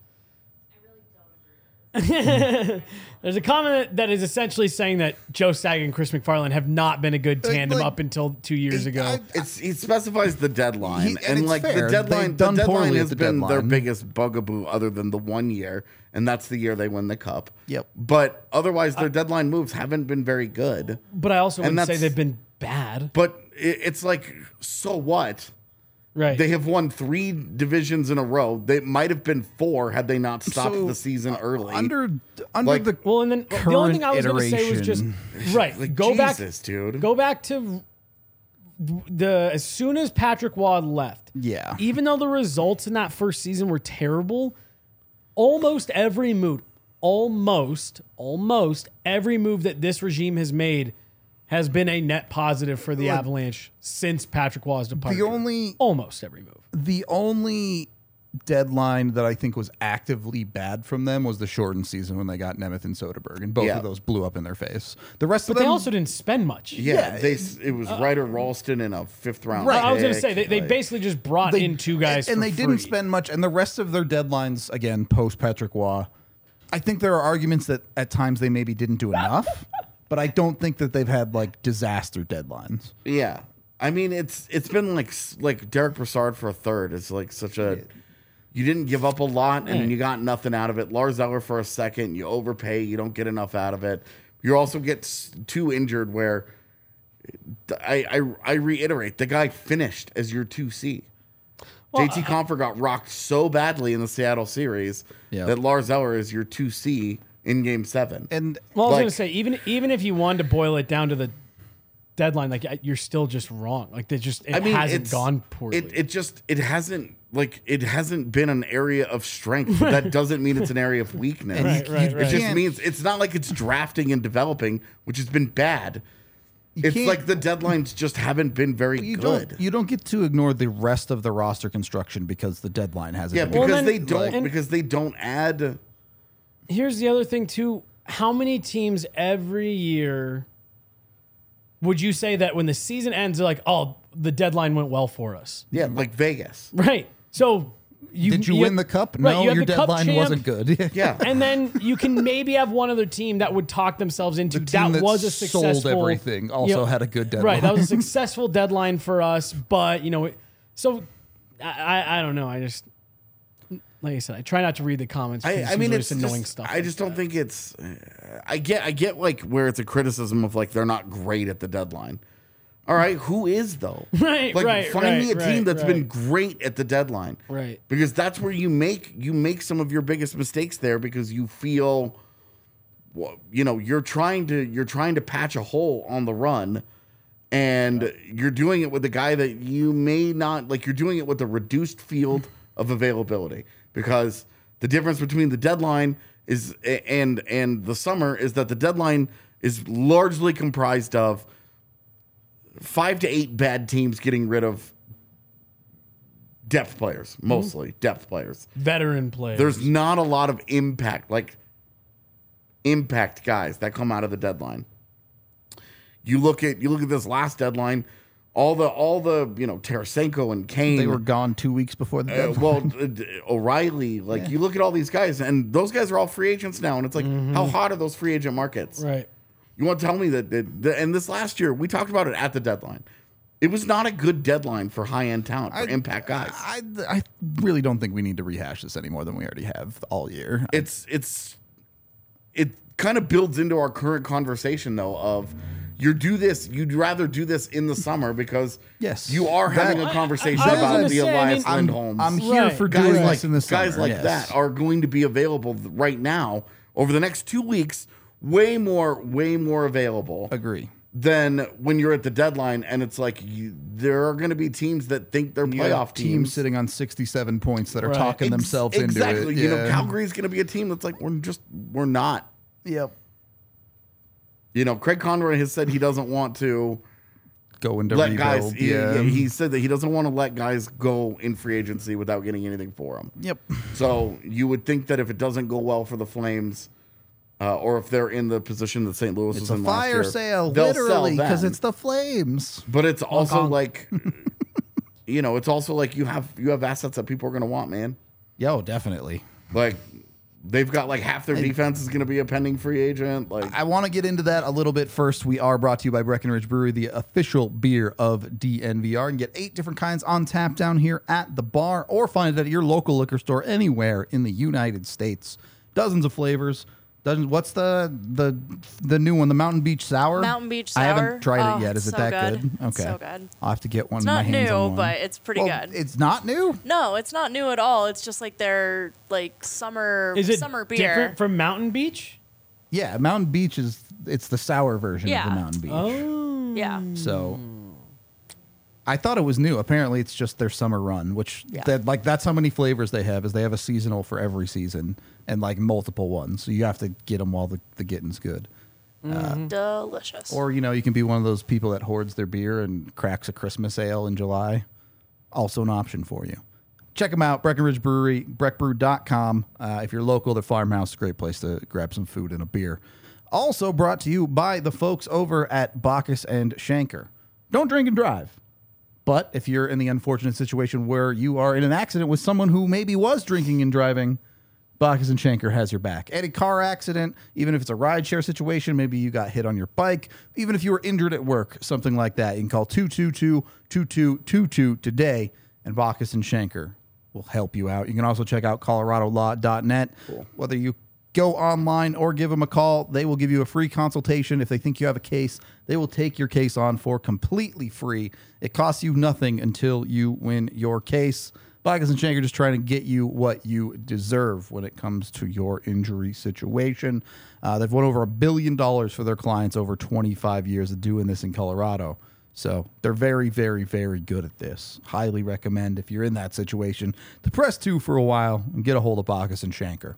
There's a comment that is essentially saying that Joe Sagan and Chris McFarland have not been a good tandem up until 2 years ago. He specifies the deadline, and like fair. the deadline has been their biggest bugaboo, other than the 1 year, and that's the year they win the cup. Yep. But otherwise, their deadline moves haven't been very good. But I also wouldn't say they've been bad. But it's like, so what? Right. They have won 3 divisions in a row. They might have been 4 had they not stopped the season early. Under like, the and then the only thing I was going to say was just like, go back to as soon as Patrick Waugh left. Yeah. Even though the results in that first season were terrible, almost every move that this regime has made has been a net positive for the Avalanche since Patrick Waugh's departure. Almost every move. The only deadline that I think was actively bad from them was the shortened season when they got Nemeth and Soderberg, and both of those blew up in their face. The rest of them, they also didn't spend much. It was Ryder Ralston in a 5th round. Right, I was going to say they basically just brought in 2 guys, and they didn't spend much. And the rest of their deadlines, again, post Patrick Waugh, I think there are arguments that at times they maybe didn't do enough. But I don't think that they've had like disaster deadlines. Yeah, I mean it's been like Derek Brassard for a third. It's like such a you didn't give up a lot and you got nothing out of it. Lars Eller for a second, you overpay, you don't get enough out of it. You also get too injured. Where I reiterate, the guy finished as your 2C. JT Compher got rocked so badly in the Seattle series that Lars Eller is your 2C. In Game 7. And I was going to say, even if you wanted to boil it down to the deadline, like you're still just wrong. Like it hasn't gone poorly. It hasn't been an area of strength. But that doesn't mean it's an area of weakness. It just means it's not like it's drafting and developing, which has been bad. It's like the deadlines just haven't been very good. You don't get to ignore the rest of the roster construction because the deadline hasn't. Yeah, because they don't add. Here's the other thing, too. How many teams every year would you say that when the season ends, they're like, oh, the deadline went well for us? Yeah, like Vegas. Right. So did you win the cup? No, your deadline wasn't good. Yeah. And then you can maybe have one other team that would talk themselves into that was a successful. Sold everything. Also had a good deadline. Right. That was a successful deadline for us. But, so I don't know. I just. Like I said, I try not to read the comments. I mean, it's annoying stuff. I just don't think it's. I get like where it's a criticism of like they're not great at the deadline. All right, who is though? Right, like, find me a team that's been great at the deadline. Right, because that's where you make some of your biggest mistakes there because you feel, you're trying to patch a hole on the run. And you're doing it with a guy that you may not like. You're doing it with a reduced field of availability. Because the difference between the deadline is and the summer is that the deadline is largely comprised of 5 to 8 bad teams getting rid of depth players, mostly depth players, veteran players. There's not a lot of impact guys that come out of the deadline. You look at this last deadline. All the Tarasenko and Kane. They were gone 2 weeks before the deadline. O'Reilly. You look at all these guys, and those guys are all free agents now. And it's like, how hot are those free agent markets? Right. You want to tell me that and this last year, we talked about it at the deadline. It was not a good deadline for high-end talent, for impact guys. I really don't think we need to rehash this any more than we already have all year. It kind of builds into our current conversation, though, of you'd rather do this in the summer because you are having a conversation about the Elias Lindholms. I'm here for guys doing this in the summer. Guys like that are going to be available right now over the next 2 weeks, way more available. Agree. Than when you're at the deadline and it's like there are going to be teams that think they're playoff teams sitting on 67 points that are talking themselves into it. Exactly. Calgary's going to be a team that's like we're not. Yep. Craig Conroy has said he doesn't want to go into let rebuild. Guys. He said that he doesn't want to let guys go in free agency without getting anything for them. Yep. So you would think that if it doesn't go well for the Flames, or if they're in the position that St. Louis was in last year, it's a fire sale, literally, because it's the Flames. But it's also it's also like you have assets that people are going to want, man. Yo, definitely. They've got half their defense is going to be a pending free agent. I want to get into that a little bit first. We are brought to you by Breckenridge Brewery, the official beer of DNVR. And get 8 different kinds on tap down here at the bar, or find it at your local liquor store anywhere in the United States. Dozens of flavors. What's the new one? The Mountain Beach Sour? Mountain Beach Sour. I haven't tried it yet. Is it that good? Okay. So good. I'll have to get one. It's not new, but it's pretty good. It's not new? No, it's not new at all. It's just their summer beer. Is it different from Mountain Beach? Yeah, Mountain Beach it's the sour version of the Mountain Beach. Oh. Yeah. So I thought it was new. Apparently, it's just their summer run, which that's how many flavors they have. Is they have a seasonal for every season and multiple ones. So you have to get them while the getting's good. Delicious. Or you can be one of those people that hoards their beer and cracks a Christmas ale in July. Also an option for you. Check them out, Breckenridge Brewery, breckbrew.com. If you're local, the Farmhouse is a great place to grab some food and a beer. Also brought to you by the folks over at Bacchus and Schenker. Don't drink and drive. But if you're in the unfortunate situation where you are in an accident with someone who maybe was drinking and driving, Bacchus and Schenker has your back. Any car accident, even if it's a rideshare situation, maybe you got hit on your bike, even if you were injured at work, something like that, you can call 222-2222 today, and Bacchus and Schenker will help you out. You can also check out coloradolaw.net. Cool. Whether you go online or give them a call, they will give you a free consultation. If they think you have a case, they will take your case on for completely free. It costs you nothing until you win your case. Bacchus and Schenker just trying to get you what you deserve when it comes to your injury situation. They've won over $1 billion for their clients over 25 years of doing this in Colorado. So they're very, very, very good at this. Highly recommend, if you're in that situation, to press 2 for a while and get a hold of Bacchus and Schenker.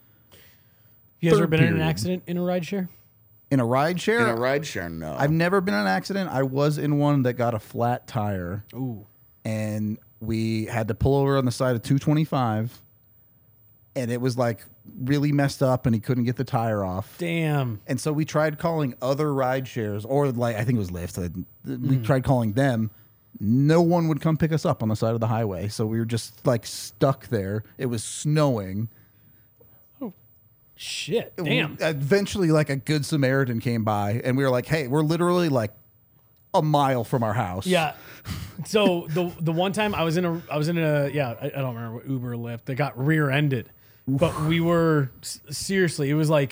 You guys ever been in an accident in a rideshare? In a rideshare? In a rideshare, no. I've never been in an accident. I was in one that got a flat tire. Ooh. And we had to pull over on the side of 225. And it was really messed up and he couldn't get the tire off. Damn. And so we tried calling other rideshares, or I think it was Lyft. We tried calling them. No one would come pick us up on the side of the highway. So we were just stuck there. It was snowing. Shit, damn. Eventually, a Good Samaritan came by, and we were like, hey, we're literally a mile from our house. Yeah. So the one time I was in a I don't remember what Uber or Lyft. They got rear-ended. Oof. But we were, seriously, it was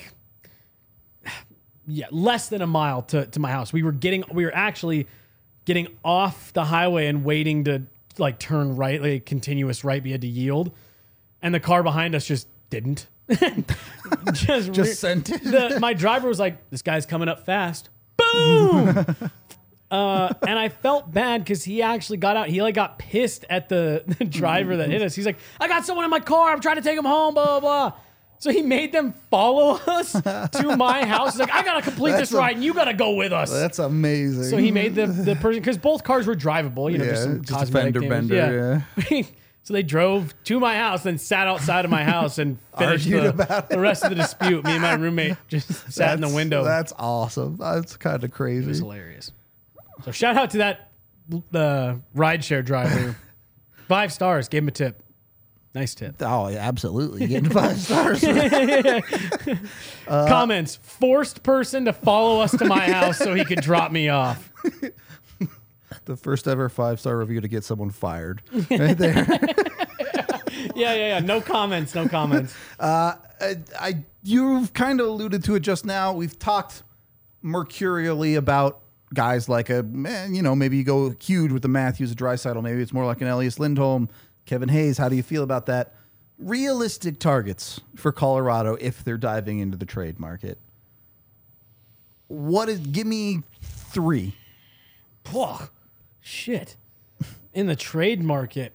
less than a mile to my house. We were actually getting off the highway and waiting to turn right, a continuous right. We had to yield. And the car behind us just didn't. just sent it. My driver was like, "This guy's coming up fast." Boom. And I felt bad because he actually got out. He got pissed at the driver that hit us. He's like, "I got someone in my car. I'm trying to take him home." Blah blah blah. So he made them follow us to my house. He's like, "I gotta complete this ride, and you gotta go with us." That's amazing. So he made the person, because both cars were drivable. Just some just a fender bender. Yeah. So they drove to my house, then sat outside of my house and finished the rest of the dispute. Me and my roommate just sat in the window. That's awesome. That's kind of crazy. It was hilarious. So shout out to that rideshare driver. 5 stars. Gave him a tip. Nice tip. Oh, yeah, absolutely. Getting 5 stars. Comments. Forced person to follow us to my house so he could drop me off. The first ever 5-star review to get someone fired. Right there. Yeah. No comments. You've kind of alluded to it just now. We've talked mercurially about guys like maybe you go huge with the Matthews, a Draisaitl. Maybe it's more like an Elias Lindholm, Kevin Hayes. How do you feel about that? Realistic targets for Colorado if they're diving into the trade market. Give me 3. Oh, shit. In the trade market.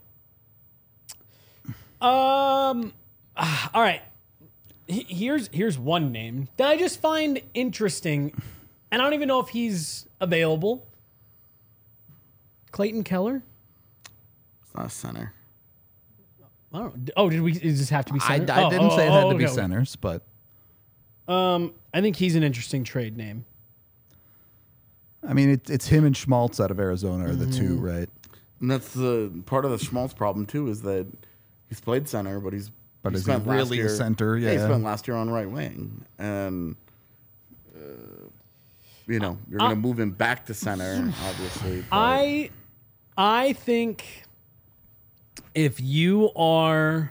All right. Here's one name that I just find interesting, and I don't even know if he's available. Clayton Keller? It's not a center. I don't know. Oh, does this have to be center? I didn't say it had to be centers, but I think he's an interesting trade name. I mean, it's him and Schmaltz out of Arizona are the two, right? And that's the part of the Schmaltz problem too, is that he's played center, but he's spent really a center. Yeah, he spent last year on right wing, and you're going to move him back to center, obviously. But I think if you are.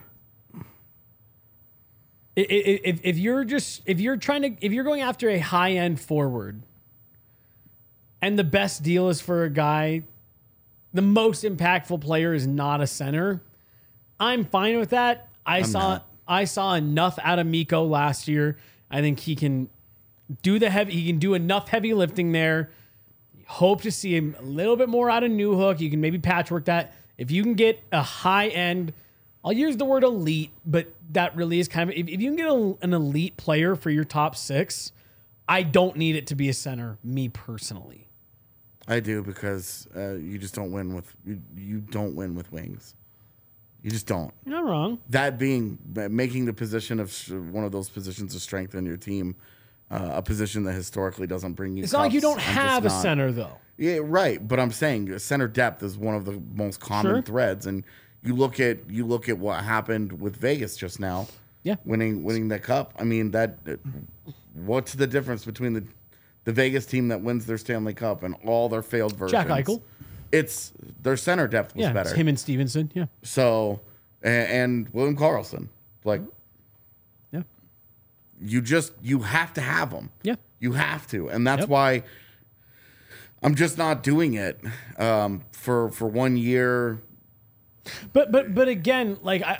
If you're going after a high end forward, and the best deal is for a guy, the most impactful player is not a center, I'm fine with that. I saw enough out of Mikko last year. I think he can do enough heavy lifting there. Hope to see him a little bit more out of Newhook. You can maybe patchwork that. If you can get a high end, I'll use the word elite, but that really is kind of, if you can get an elite player for your top 6, I don't need it to be a center, me personally. I do, because you just don't win with you don't win with wings. You just don't. You're not wrong. That being making the position of one of those positions of strength in your team a position that historically doesn't bring you. It's not like you don't have a center, though. Yeah, right. But I'm saying center depth is one of the most common threads, and you look at what happened with Vegas just now. Yeah, winning the cup. I mean, what's the difference between the Vegas team that wins their Stanley Cup and all their failed versions? Jack Eichel. It's their center depth was better. It's him and Stevenson. Yeah. So, and William Karlsson, you have to have them. Yeah. You have to, and that's why I'm just not doing it for 1 year. But again,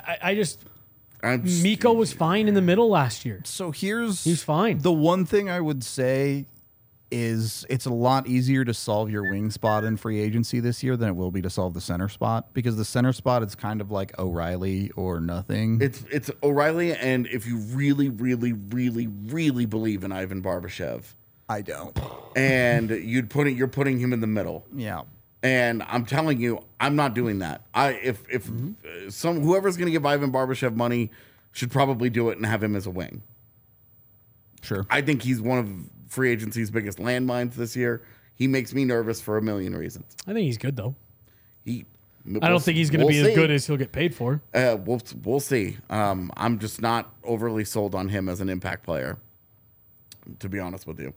Mikko was fine in the middle last year. So he's fine. The one thing I would say is it's a lot easier to solve your wing spot in free agency this year than it will be to solve the center spot, because the center spot is kind of like O'Reilly or nothing. It's O'Reilly, and if you really, really, really, really believe in Ivan Barbashev, I don't. And you're putting him in the middle. Yeah. And I'm telling you, I'm not doing that. Whoever's going to give Ivan Barbashev money should probably do it and have him as a wing. Sure. I think he's one of free agency's biggest landmines this year. He makes me nervous for a million reasons. I think he's good, though. I don't think he's going to be as good as he'll get paid for. We'll see. I'm just not overly sold on him as an impact player, to be honest with you.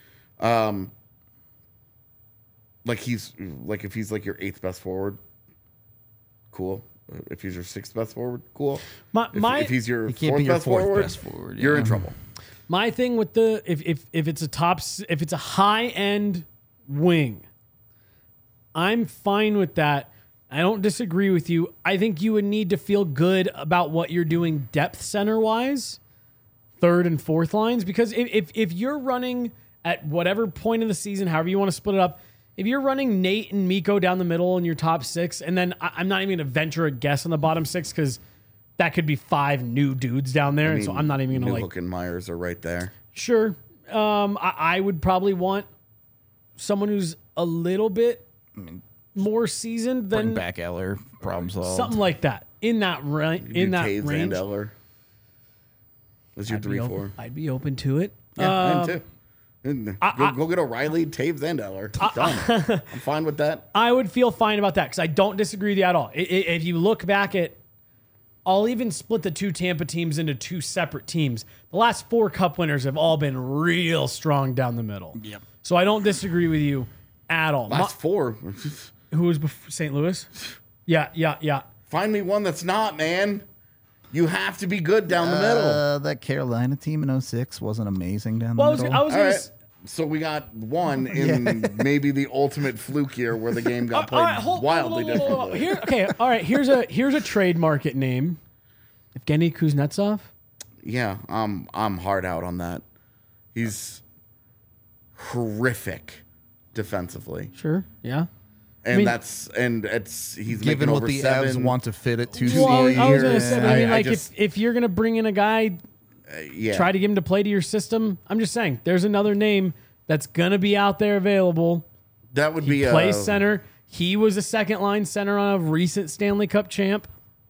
If he's like your 8th best forward, cool. If he's your 6th best forward, cool. If he's your 4th best forward, you're in trouble. My thing with if it's a high end wing, I'm fine with that. I don't disagree with you. I think you would need to feel good about what you're doing depth center wise, 3rd and 4th lines, because if you're running at whatever point in the season, however you want to split it up, if you're running Nate and Mikko down the middle in your top 6, and then I'm not even going to venture a guess on the bottom 6 because that could be 5 new dudes down there, and so I'm not even going to Newhook and Myers are right there. Sure. I would probably want someone who's a little bit more seasoned than Bring back Eller, problem solved. something like that. In that Taves range. and Eller. That's your 3-4. I'd be open to it. Yeah, mine too. Go get O'Reilly, Taves, and Eller. Done. I'm fine with that. I would feel fine about that because I don't disagree with you at all. If you look back at, I'll even split the 2 Tampa teams into 2 separate teams. The last 4 Cup winners have all been real strong down the middle. Yep. So I don't disagree with you at all. Last 4. Who was St. Louis? Yeah. Find me one that's not, man. You have to be good down the middle. That Carolina team in 06 wasn't amazing down Well, the middle. I was All going right. to. So we got one in maybe the ultimate fluke year where the game got played wildly differently. Here's a trade market name. Evgeny Kuznetsov. Yeah, I'm hard out on that. He's horrific defensively, Sure. Yeah. and mean- he's Given making what over the 7. Avs want to fit it to Well, more I was going to years. say, but I mean, I like, just- if you're going to bring in a guy, Yeah, try to get him to play to your system. I'm just saying, there's another name that's going to be out there available. that would be Plays center. He was a second line center on a recent Stanley Cup champ.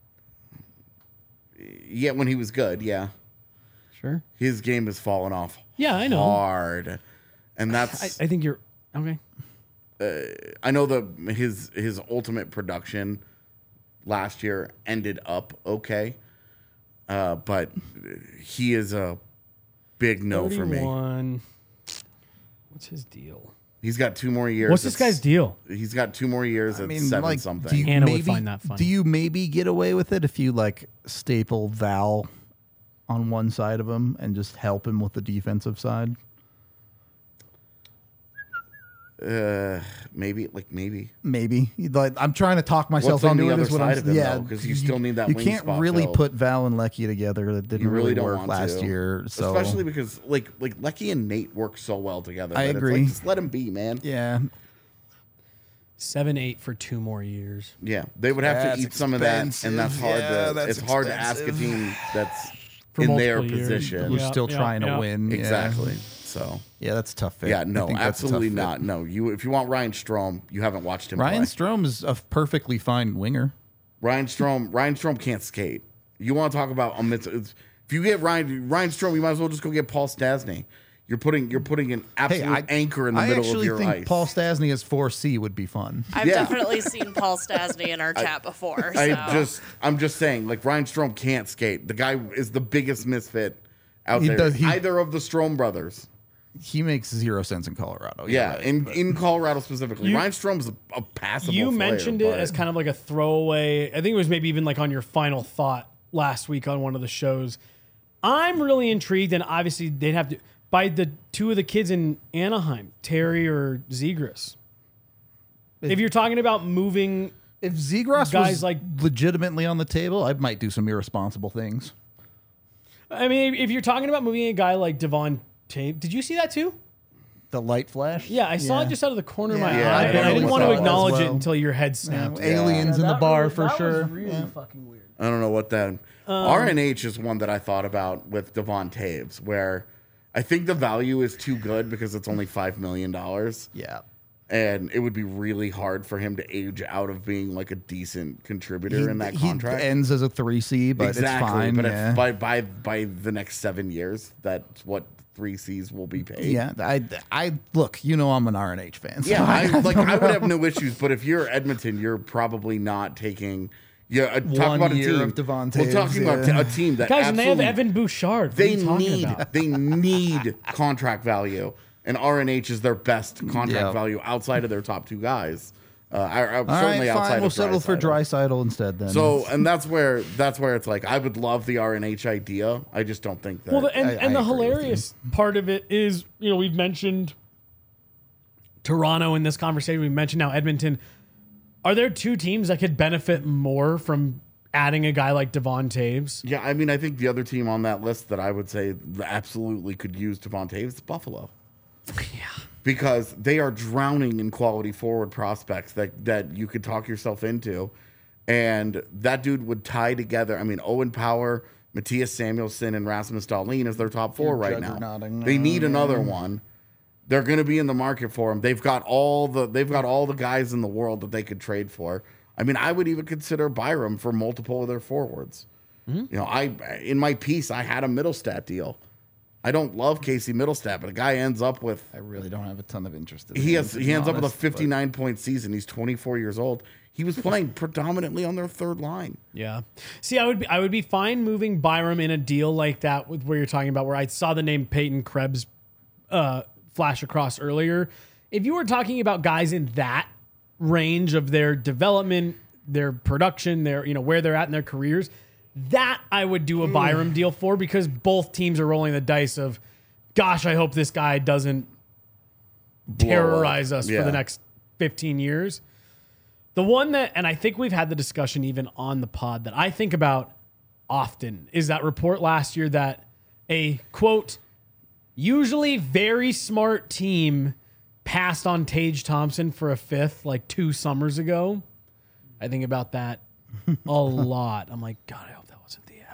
Yeah, when he was good. Yeah, Sure. his game has fallen off. Yeah, I know. Hard, and that's I think you're okay. I know his ultimate production last year ended up okay, but he is a big no for me. 31. What's his deal? He's got 2 more years. What's this guy's deal? He's got 2 more years at 7 something. Do you Anna would maybe, find that funny. Do you maybe get away with it if you like staple Val on one side of him and just help him with the defensive side? Maybe. Maybe. Like, I'm trying to talk myself What's on into the it. other is what side I'm, of him, yeah, though? Because you still need that You wing can't spot really filled. put Val and Lecky together. That didn't You really don't work want last to. year. So Especially because like Lecky and Nate work so well together. I that agree. It's like, just let him be, man. yeah, 7-8 for 2 more years. Yeah, they would have That's to eat some of that, and that's expensive. hard Yeah, to. that's It's hard to ask a expensive. team that's For in their multiple years. position. who's Yeah, still yeah, trying yeah. to win. Yeah. Exactly. So Yeah, that's a tough fit. yeah, I no, think that's a tough absolutely fit. not. No, if you want Ryan Strome, you haven't watched him. Ryan play. Strome is a perfectly fine winger. Ryan Strome can't skate. You want to talk about if you get Ryan Strome, you might as well just go get Paul Stastny. You're putting an absolute anchor in the middle of your I actually think ice. Paul Stastny as 4C would be fun. I've Yeah. definitely seen Paul Stastny in our chat before. So. I'm just saying, like Ryan Strome can't skate. The guy is the biggest misfit out He there. does- he- Either of the Strome brothers. He makes 0 sense in Colorado. Yeah, right, in Colorado specifically. You- Ryan Strome's a passable You player, mentioned it but- as kind of like a throwaway. I think it was maybe even like on your final thought last week on one of the shows. I'm really intrigued, and obviously they'd have to by the 2 of the kids in Anaheim, Terry or Zegras. If you're talking about moving, If Zegras Guys was like- legitimately on the table, I might do some irresponsible things. I mean, if you're talking about moving a guy like Devon Tape, did you see that too? The light flash? Yeah, I saw it just out of the corner of my Yeah, eye, I and I barely didn't want saw to it as acknowledge it well. until your head snapped. Aliens in the bar for sure. Yeah. fucking weird. I don't know what that. RNH is one that I thought about with Devon Taves, where I think the value is too good because it's only $5 million. Yeah. And it would be really hard for him to age out of being like a decent contributor in that contract. He ends as a 3C, but exactly. it's fine. But yeah. if by the next 7 years, that's what 3Cs will be paid. Yeah, I look. You know, I'm an RNH fan. So Yeah, I would have no issues, but if you're Edmonton, you're probably not taking. Yeah, talk 1 about a year team. of Devon We're talking Taves, about a team that Guys, and they have absolutely- Evan Bouchard. What They are you talking about? they need contract value, and RNH is their best contract Yeah. value outside of their top 2 guys. All Certainly right, outside fine. We'll of settle for Draisaitl instead then. So, and that's where it's like I would love the RNH idea. I just don't think that. Well, and I the agree with hilarious part of it is, we've mentioned Toronto in this conversation. We've mentioned now Edmonton. Are there 2 teams that could benefit more from adding a guy like Devon Taves? yeah, I mean, I think the other team on that list that I would say absolutely could use Devon Taves is Buffalo. Yeah. Because they are drowning in quality forward prospects that you could talk yourself into. And that dude would tie together. I mean, Owen Power, Matthias Samuelsson, and Rasmus Dahlin is their top 4 right now. juggernauting. They need another one. They're going to be in the market for him. They've got all the guys in the world that they could trade for. I mean, I would even consider Byram for multiple of their forwards. Mm-hmm. You know, in my piece, I had a Middlestat deal. I don't love Casey Middlestat, but a guy ends up with... I really don't have a ton of interest in him. He ends up with a 59-point season. He's 24 years old. He was playing predominantly on their third line. Yeah. See, I would be fine moving Byram in a deal like that with where you're talking about, where I saw the name Peyton Krebs flash across earlier. If you were talking about guys in that range of their development, their production, their, you know, where they're at in their careers, that I would do a Byram deal for, because both teams are rolling the dice of, gosh, I hope this guy doesn't terrorize us for the next 15 years. The one that, and I think we've had the discussion even on the pod, that I think about often is that report last year that a, quote, usually very smart team passed on Tage Thompson for a fifth like 2 summers ago. I think about that a lot. I'm like, God, I hope that wasn't the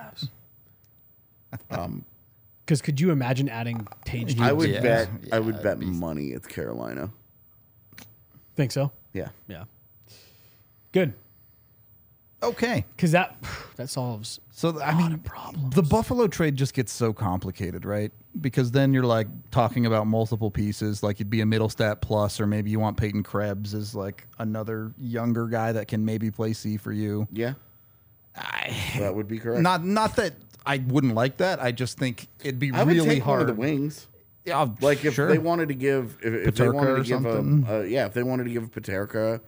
Avs. Because could you imagine adding Tage? I would bet. Yeah, I would bet money it's Carolina. Think so? Yeah. Yeah. Good. Okay. Because that solves I mean, problems. The Buffalo trade just gets so complicated, right? Because then you're like talking about multiple pieces, like you'd be a Middlestat plus, or maybe you want Peyton Krebs as like another younger guy that can maybe play C for you. Yeah. That would be correct. Not that I wouldn't like that. I just think it'd be I would really take hard. One of the wings. Yeah, like if they wanted to give, if they wanted to give if they wanted to give Peterka,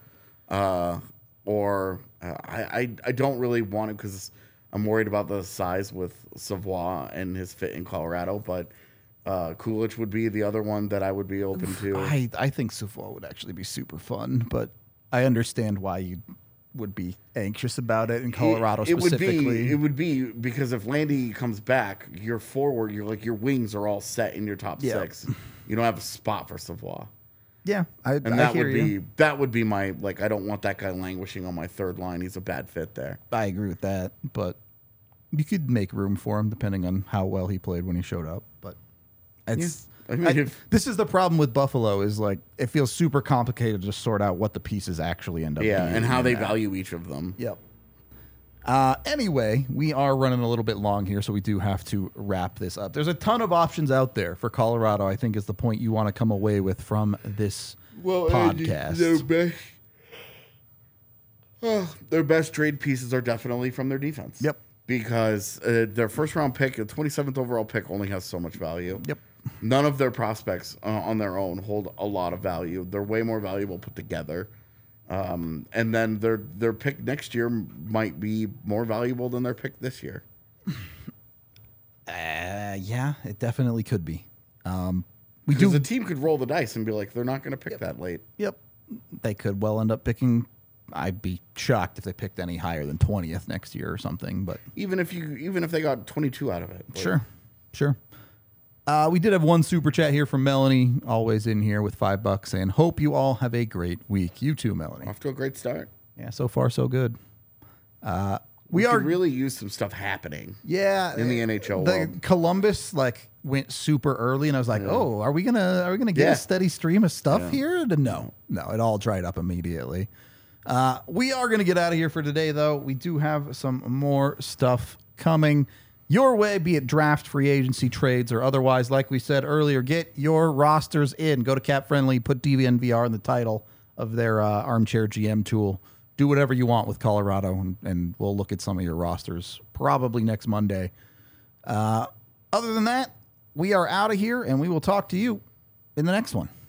or I don't really want it because I'm worried about the size with Savoie and his fit in Colorado, but Kulich would be the other one that I would be open to. I think Savoie would actually be super fun, but I understand why you would be anxious about it in Colorado specifically. It would be because if Landy comes back, your forward, your wings are all set in your top 6. You don't have a spot for Savoie. Yeah, that would be my, like, I don't want that guy languishing on my third line. He's a bad fit there. I agree with that, but you could make room for him depending on how well he played when he showed up. But it's this is the problem with Buffalo, is like it feels super complicated to sort out what the pieces actually end up being. And how they value each of them. Yep. Anyway, we are running a little bit long here, so we do have to wrap this up. There's a ton of options out there for Colorado, I think, is the point you want to come away with from this podcast. Their best trade pieces are definitely from their defense. Yep. Because their first-round pick, the 27th overall pick, only has so much value. Yep. None of their prospects on their own hold a lot of value. They're way more valuable put together. And then their pick next year might be more valuable than their pick this year. Yeah, it definitely could be. Because the team could roll the dice and be like, they're not going to pick that late. Yep. They could well end up picking. I'd be shocked if they picked any higher than 20th next year or something. But even if they got 22 out of it. Sure. We did have one super chat here from Melanie, always in here with $5, saying, hope you all have a great week. You too, Melanie. Off to a great start. Yeah, so far so good. We could really use some stuff happening. Yeah, in the NHL world. Columbus went super early, and I was like, oh, are we gonna get a steady stream of stuff here? No, it all dried up immediately. We are gonna get out of here for today, though. We do have some more stuff coming your way, be it draft, free agency, trades, or otherwise. Like we said earlier, get your rosters in. Go to Cap Friendly, put DVNVR in the title of their Armchair GM tool. Do whatever you want with Colorado, and we'll look at some of your rosters probably next Monday. Other than that, we are out of here, and we will talk to you in the next one.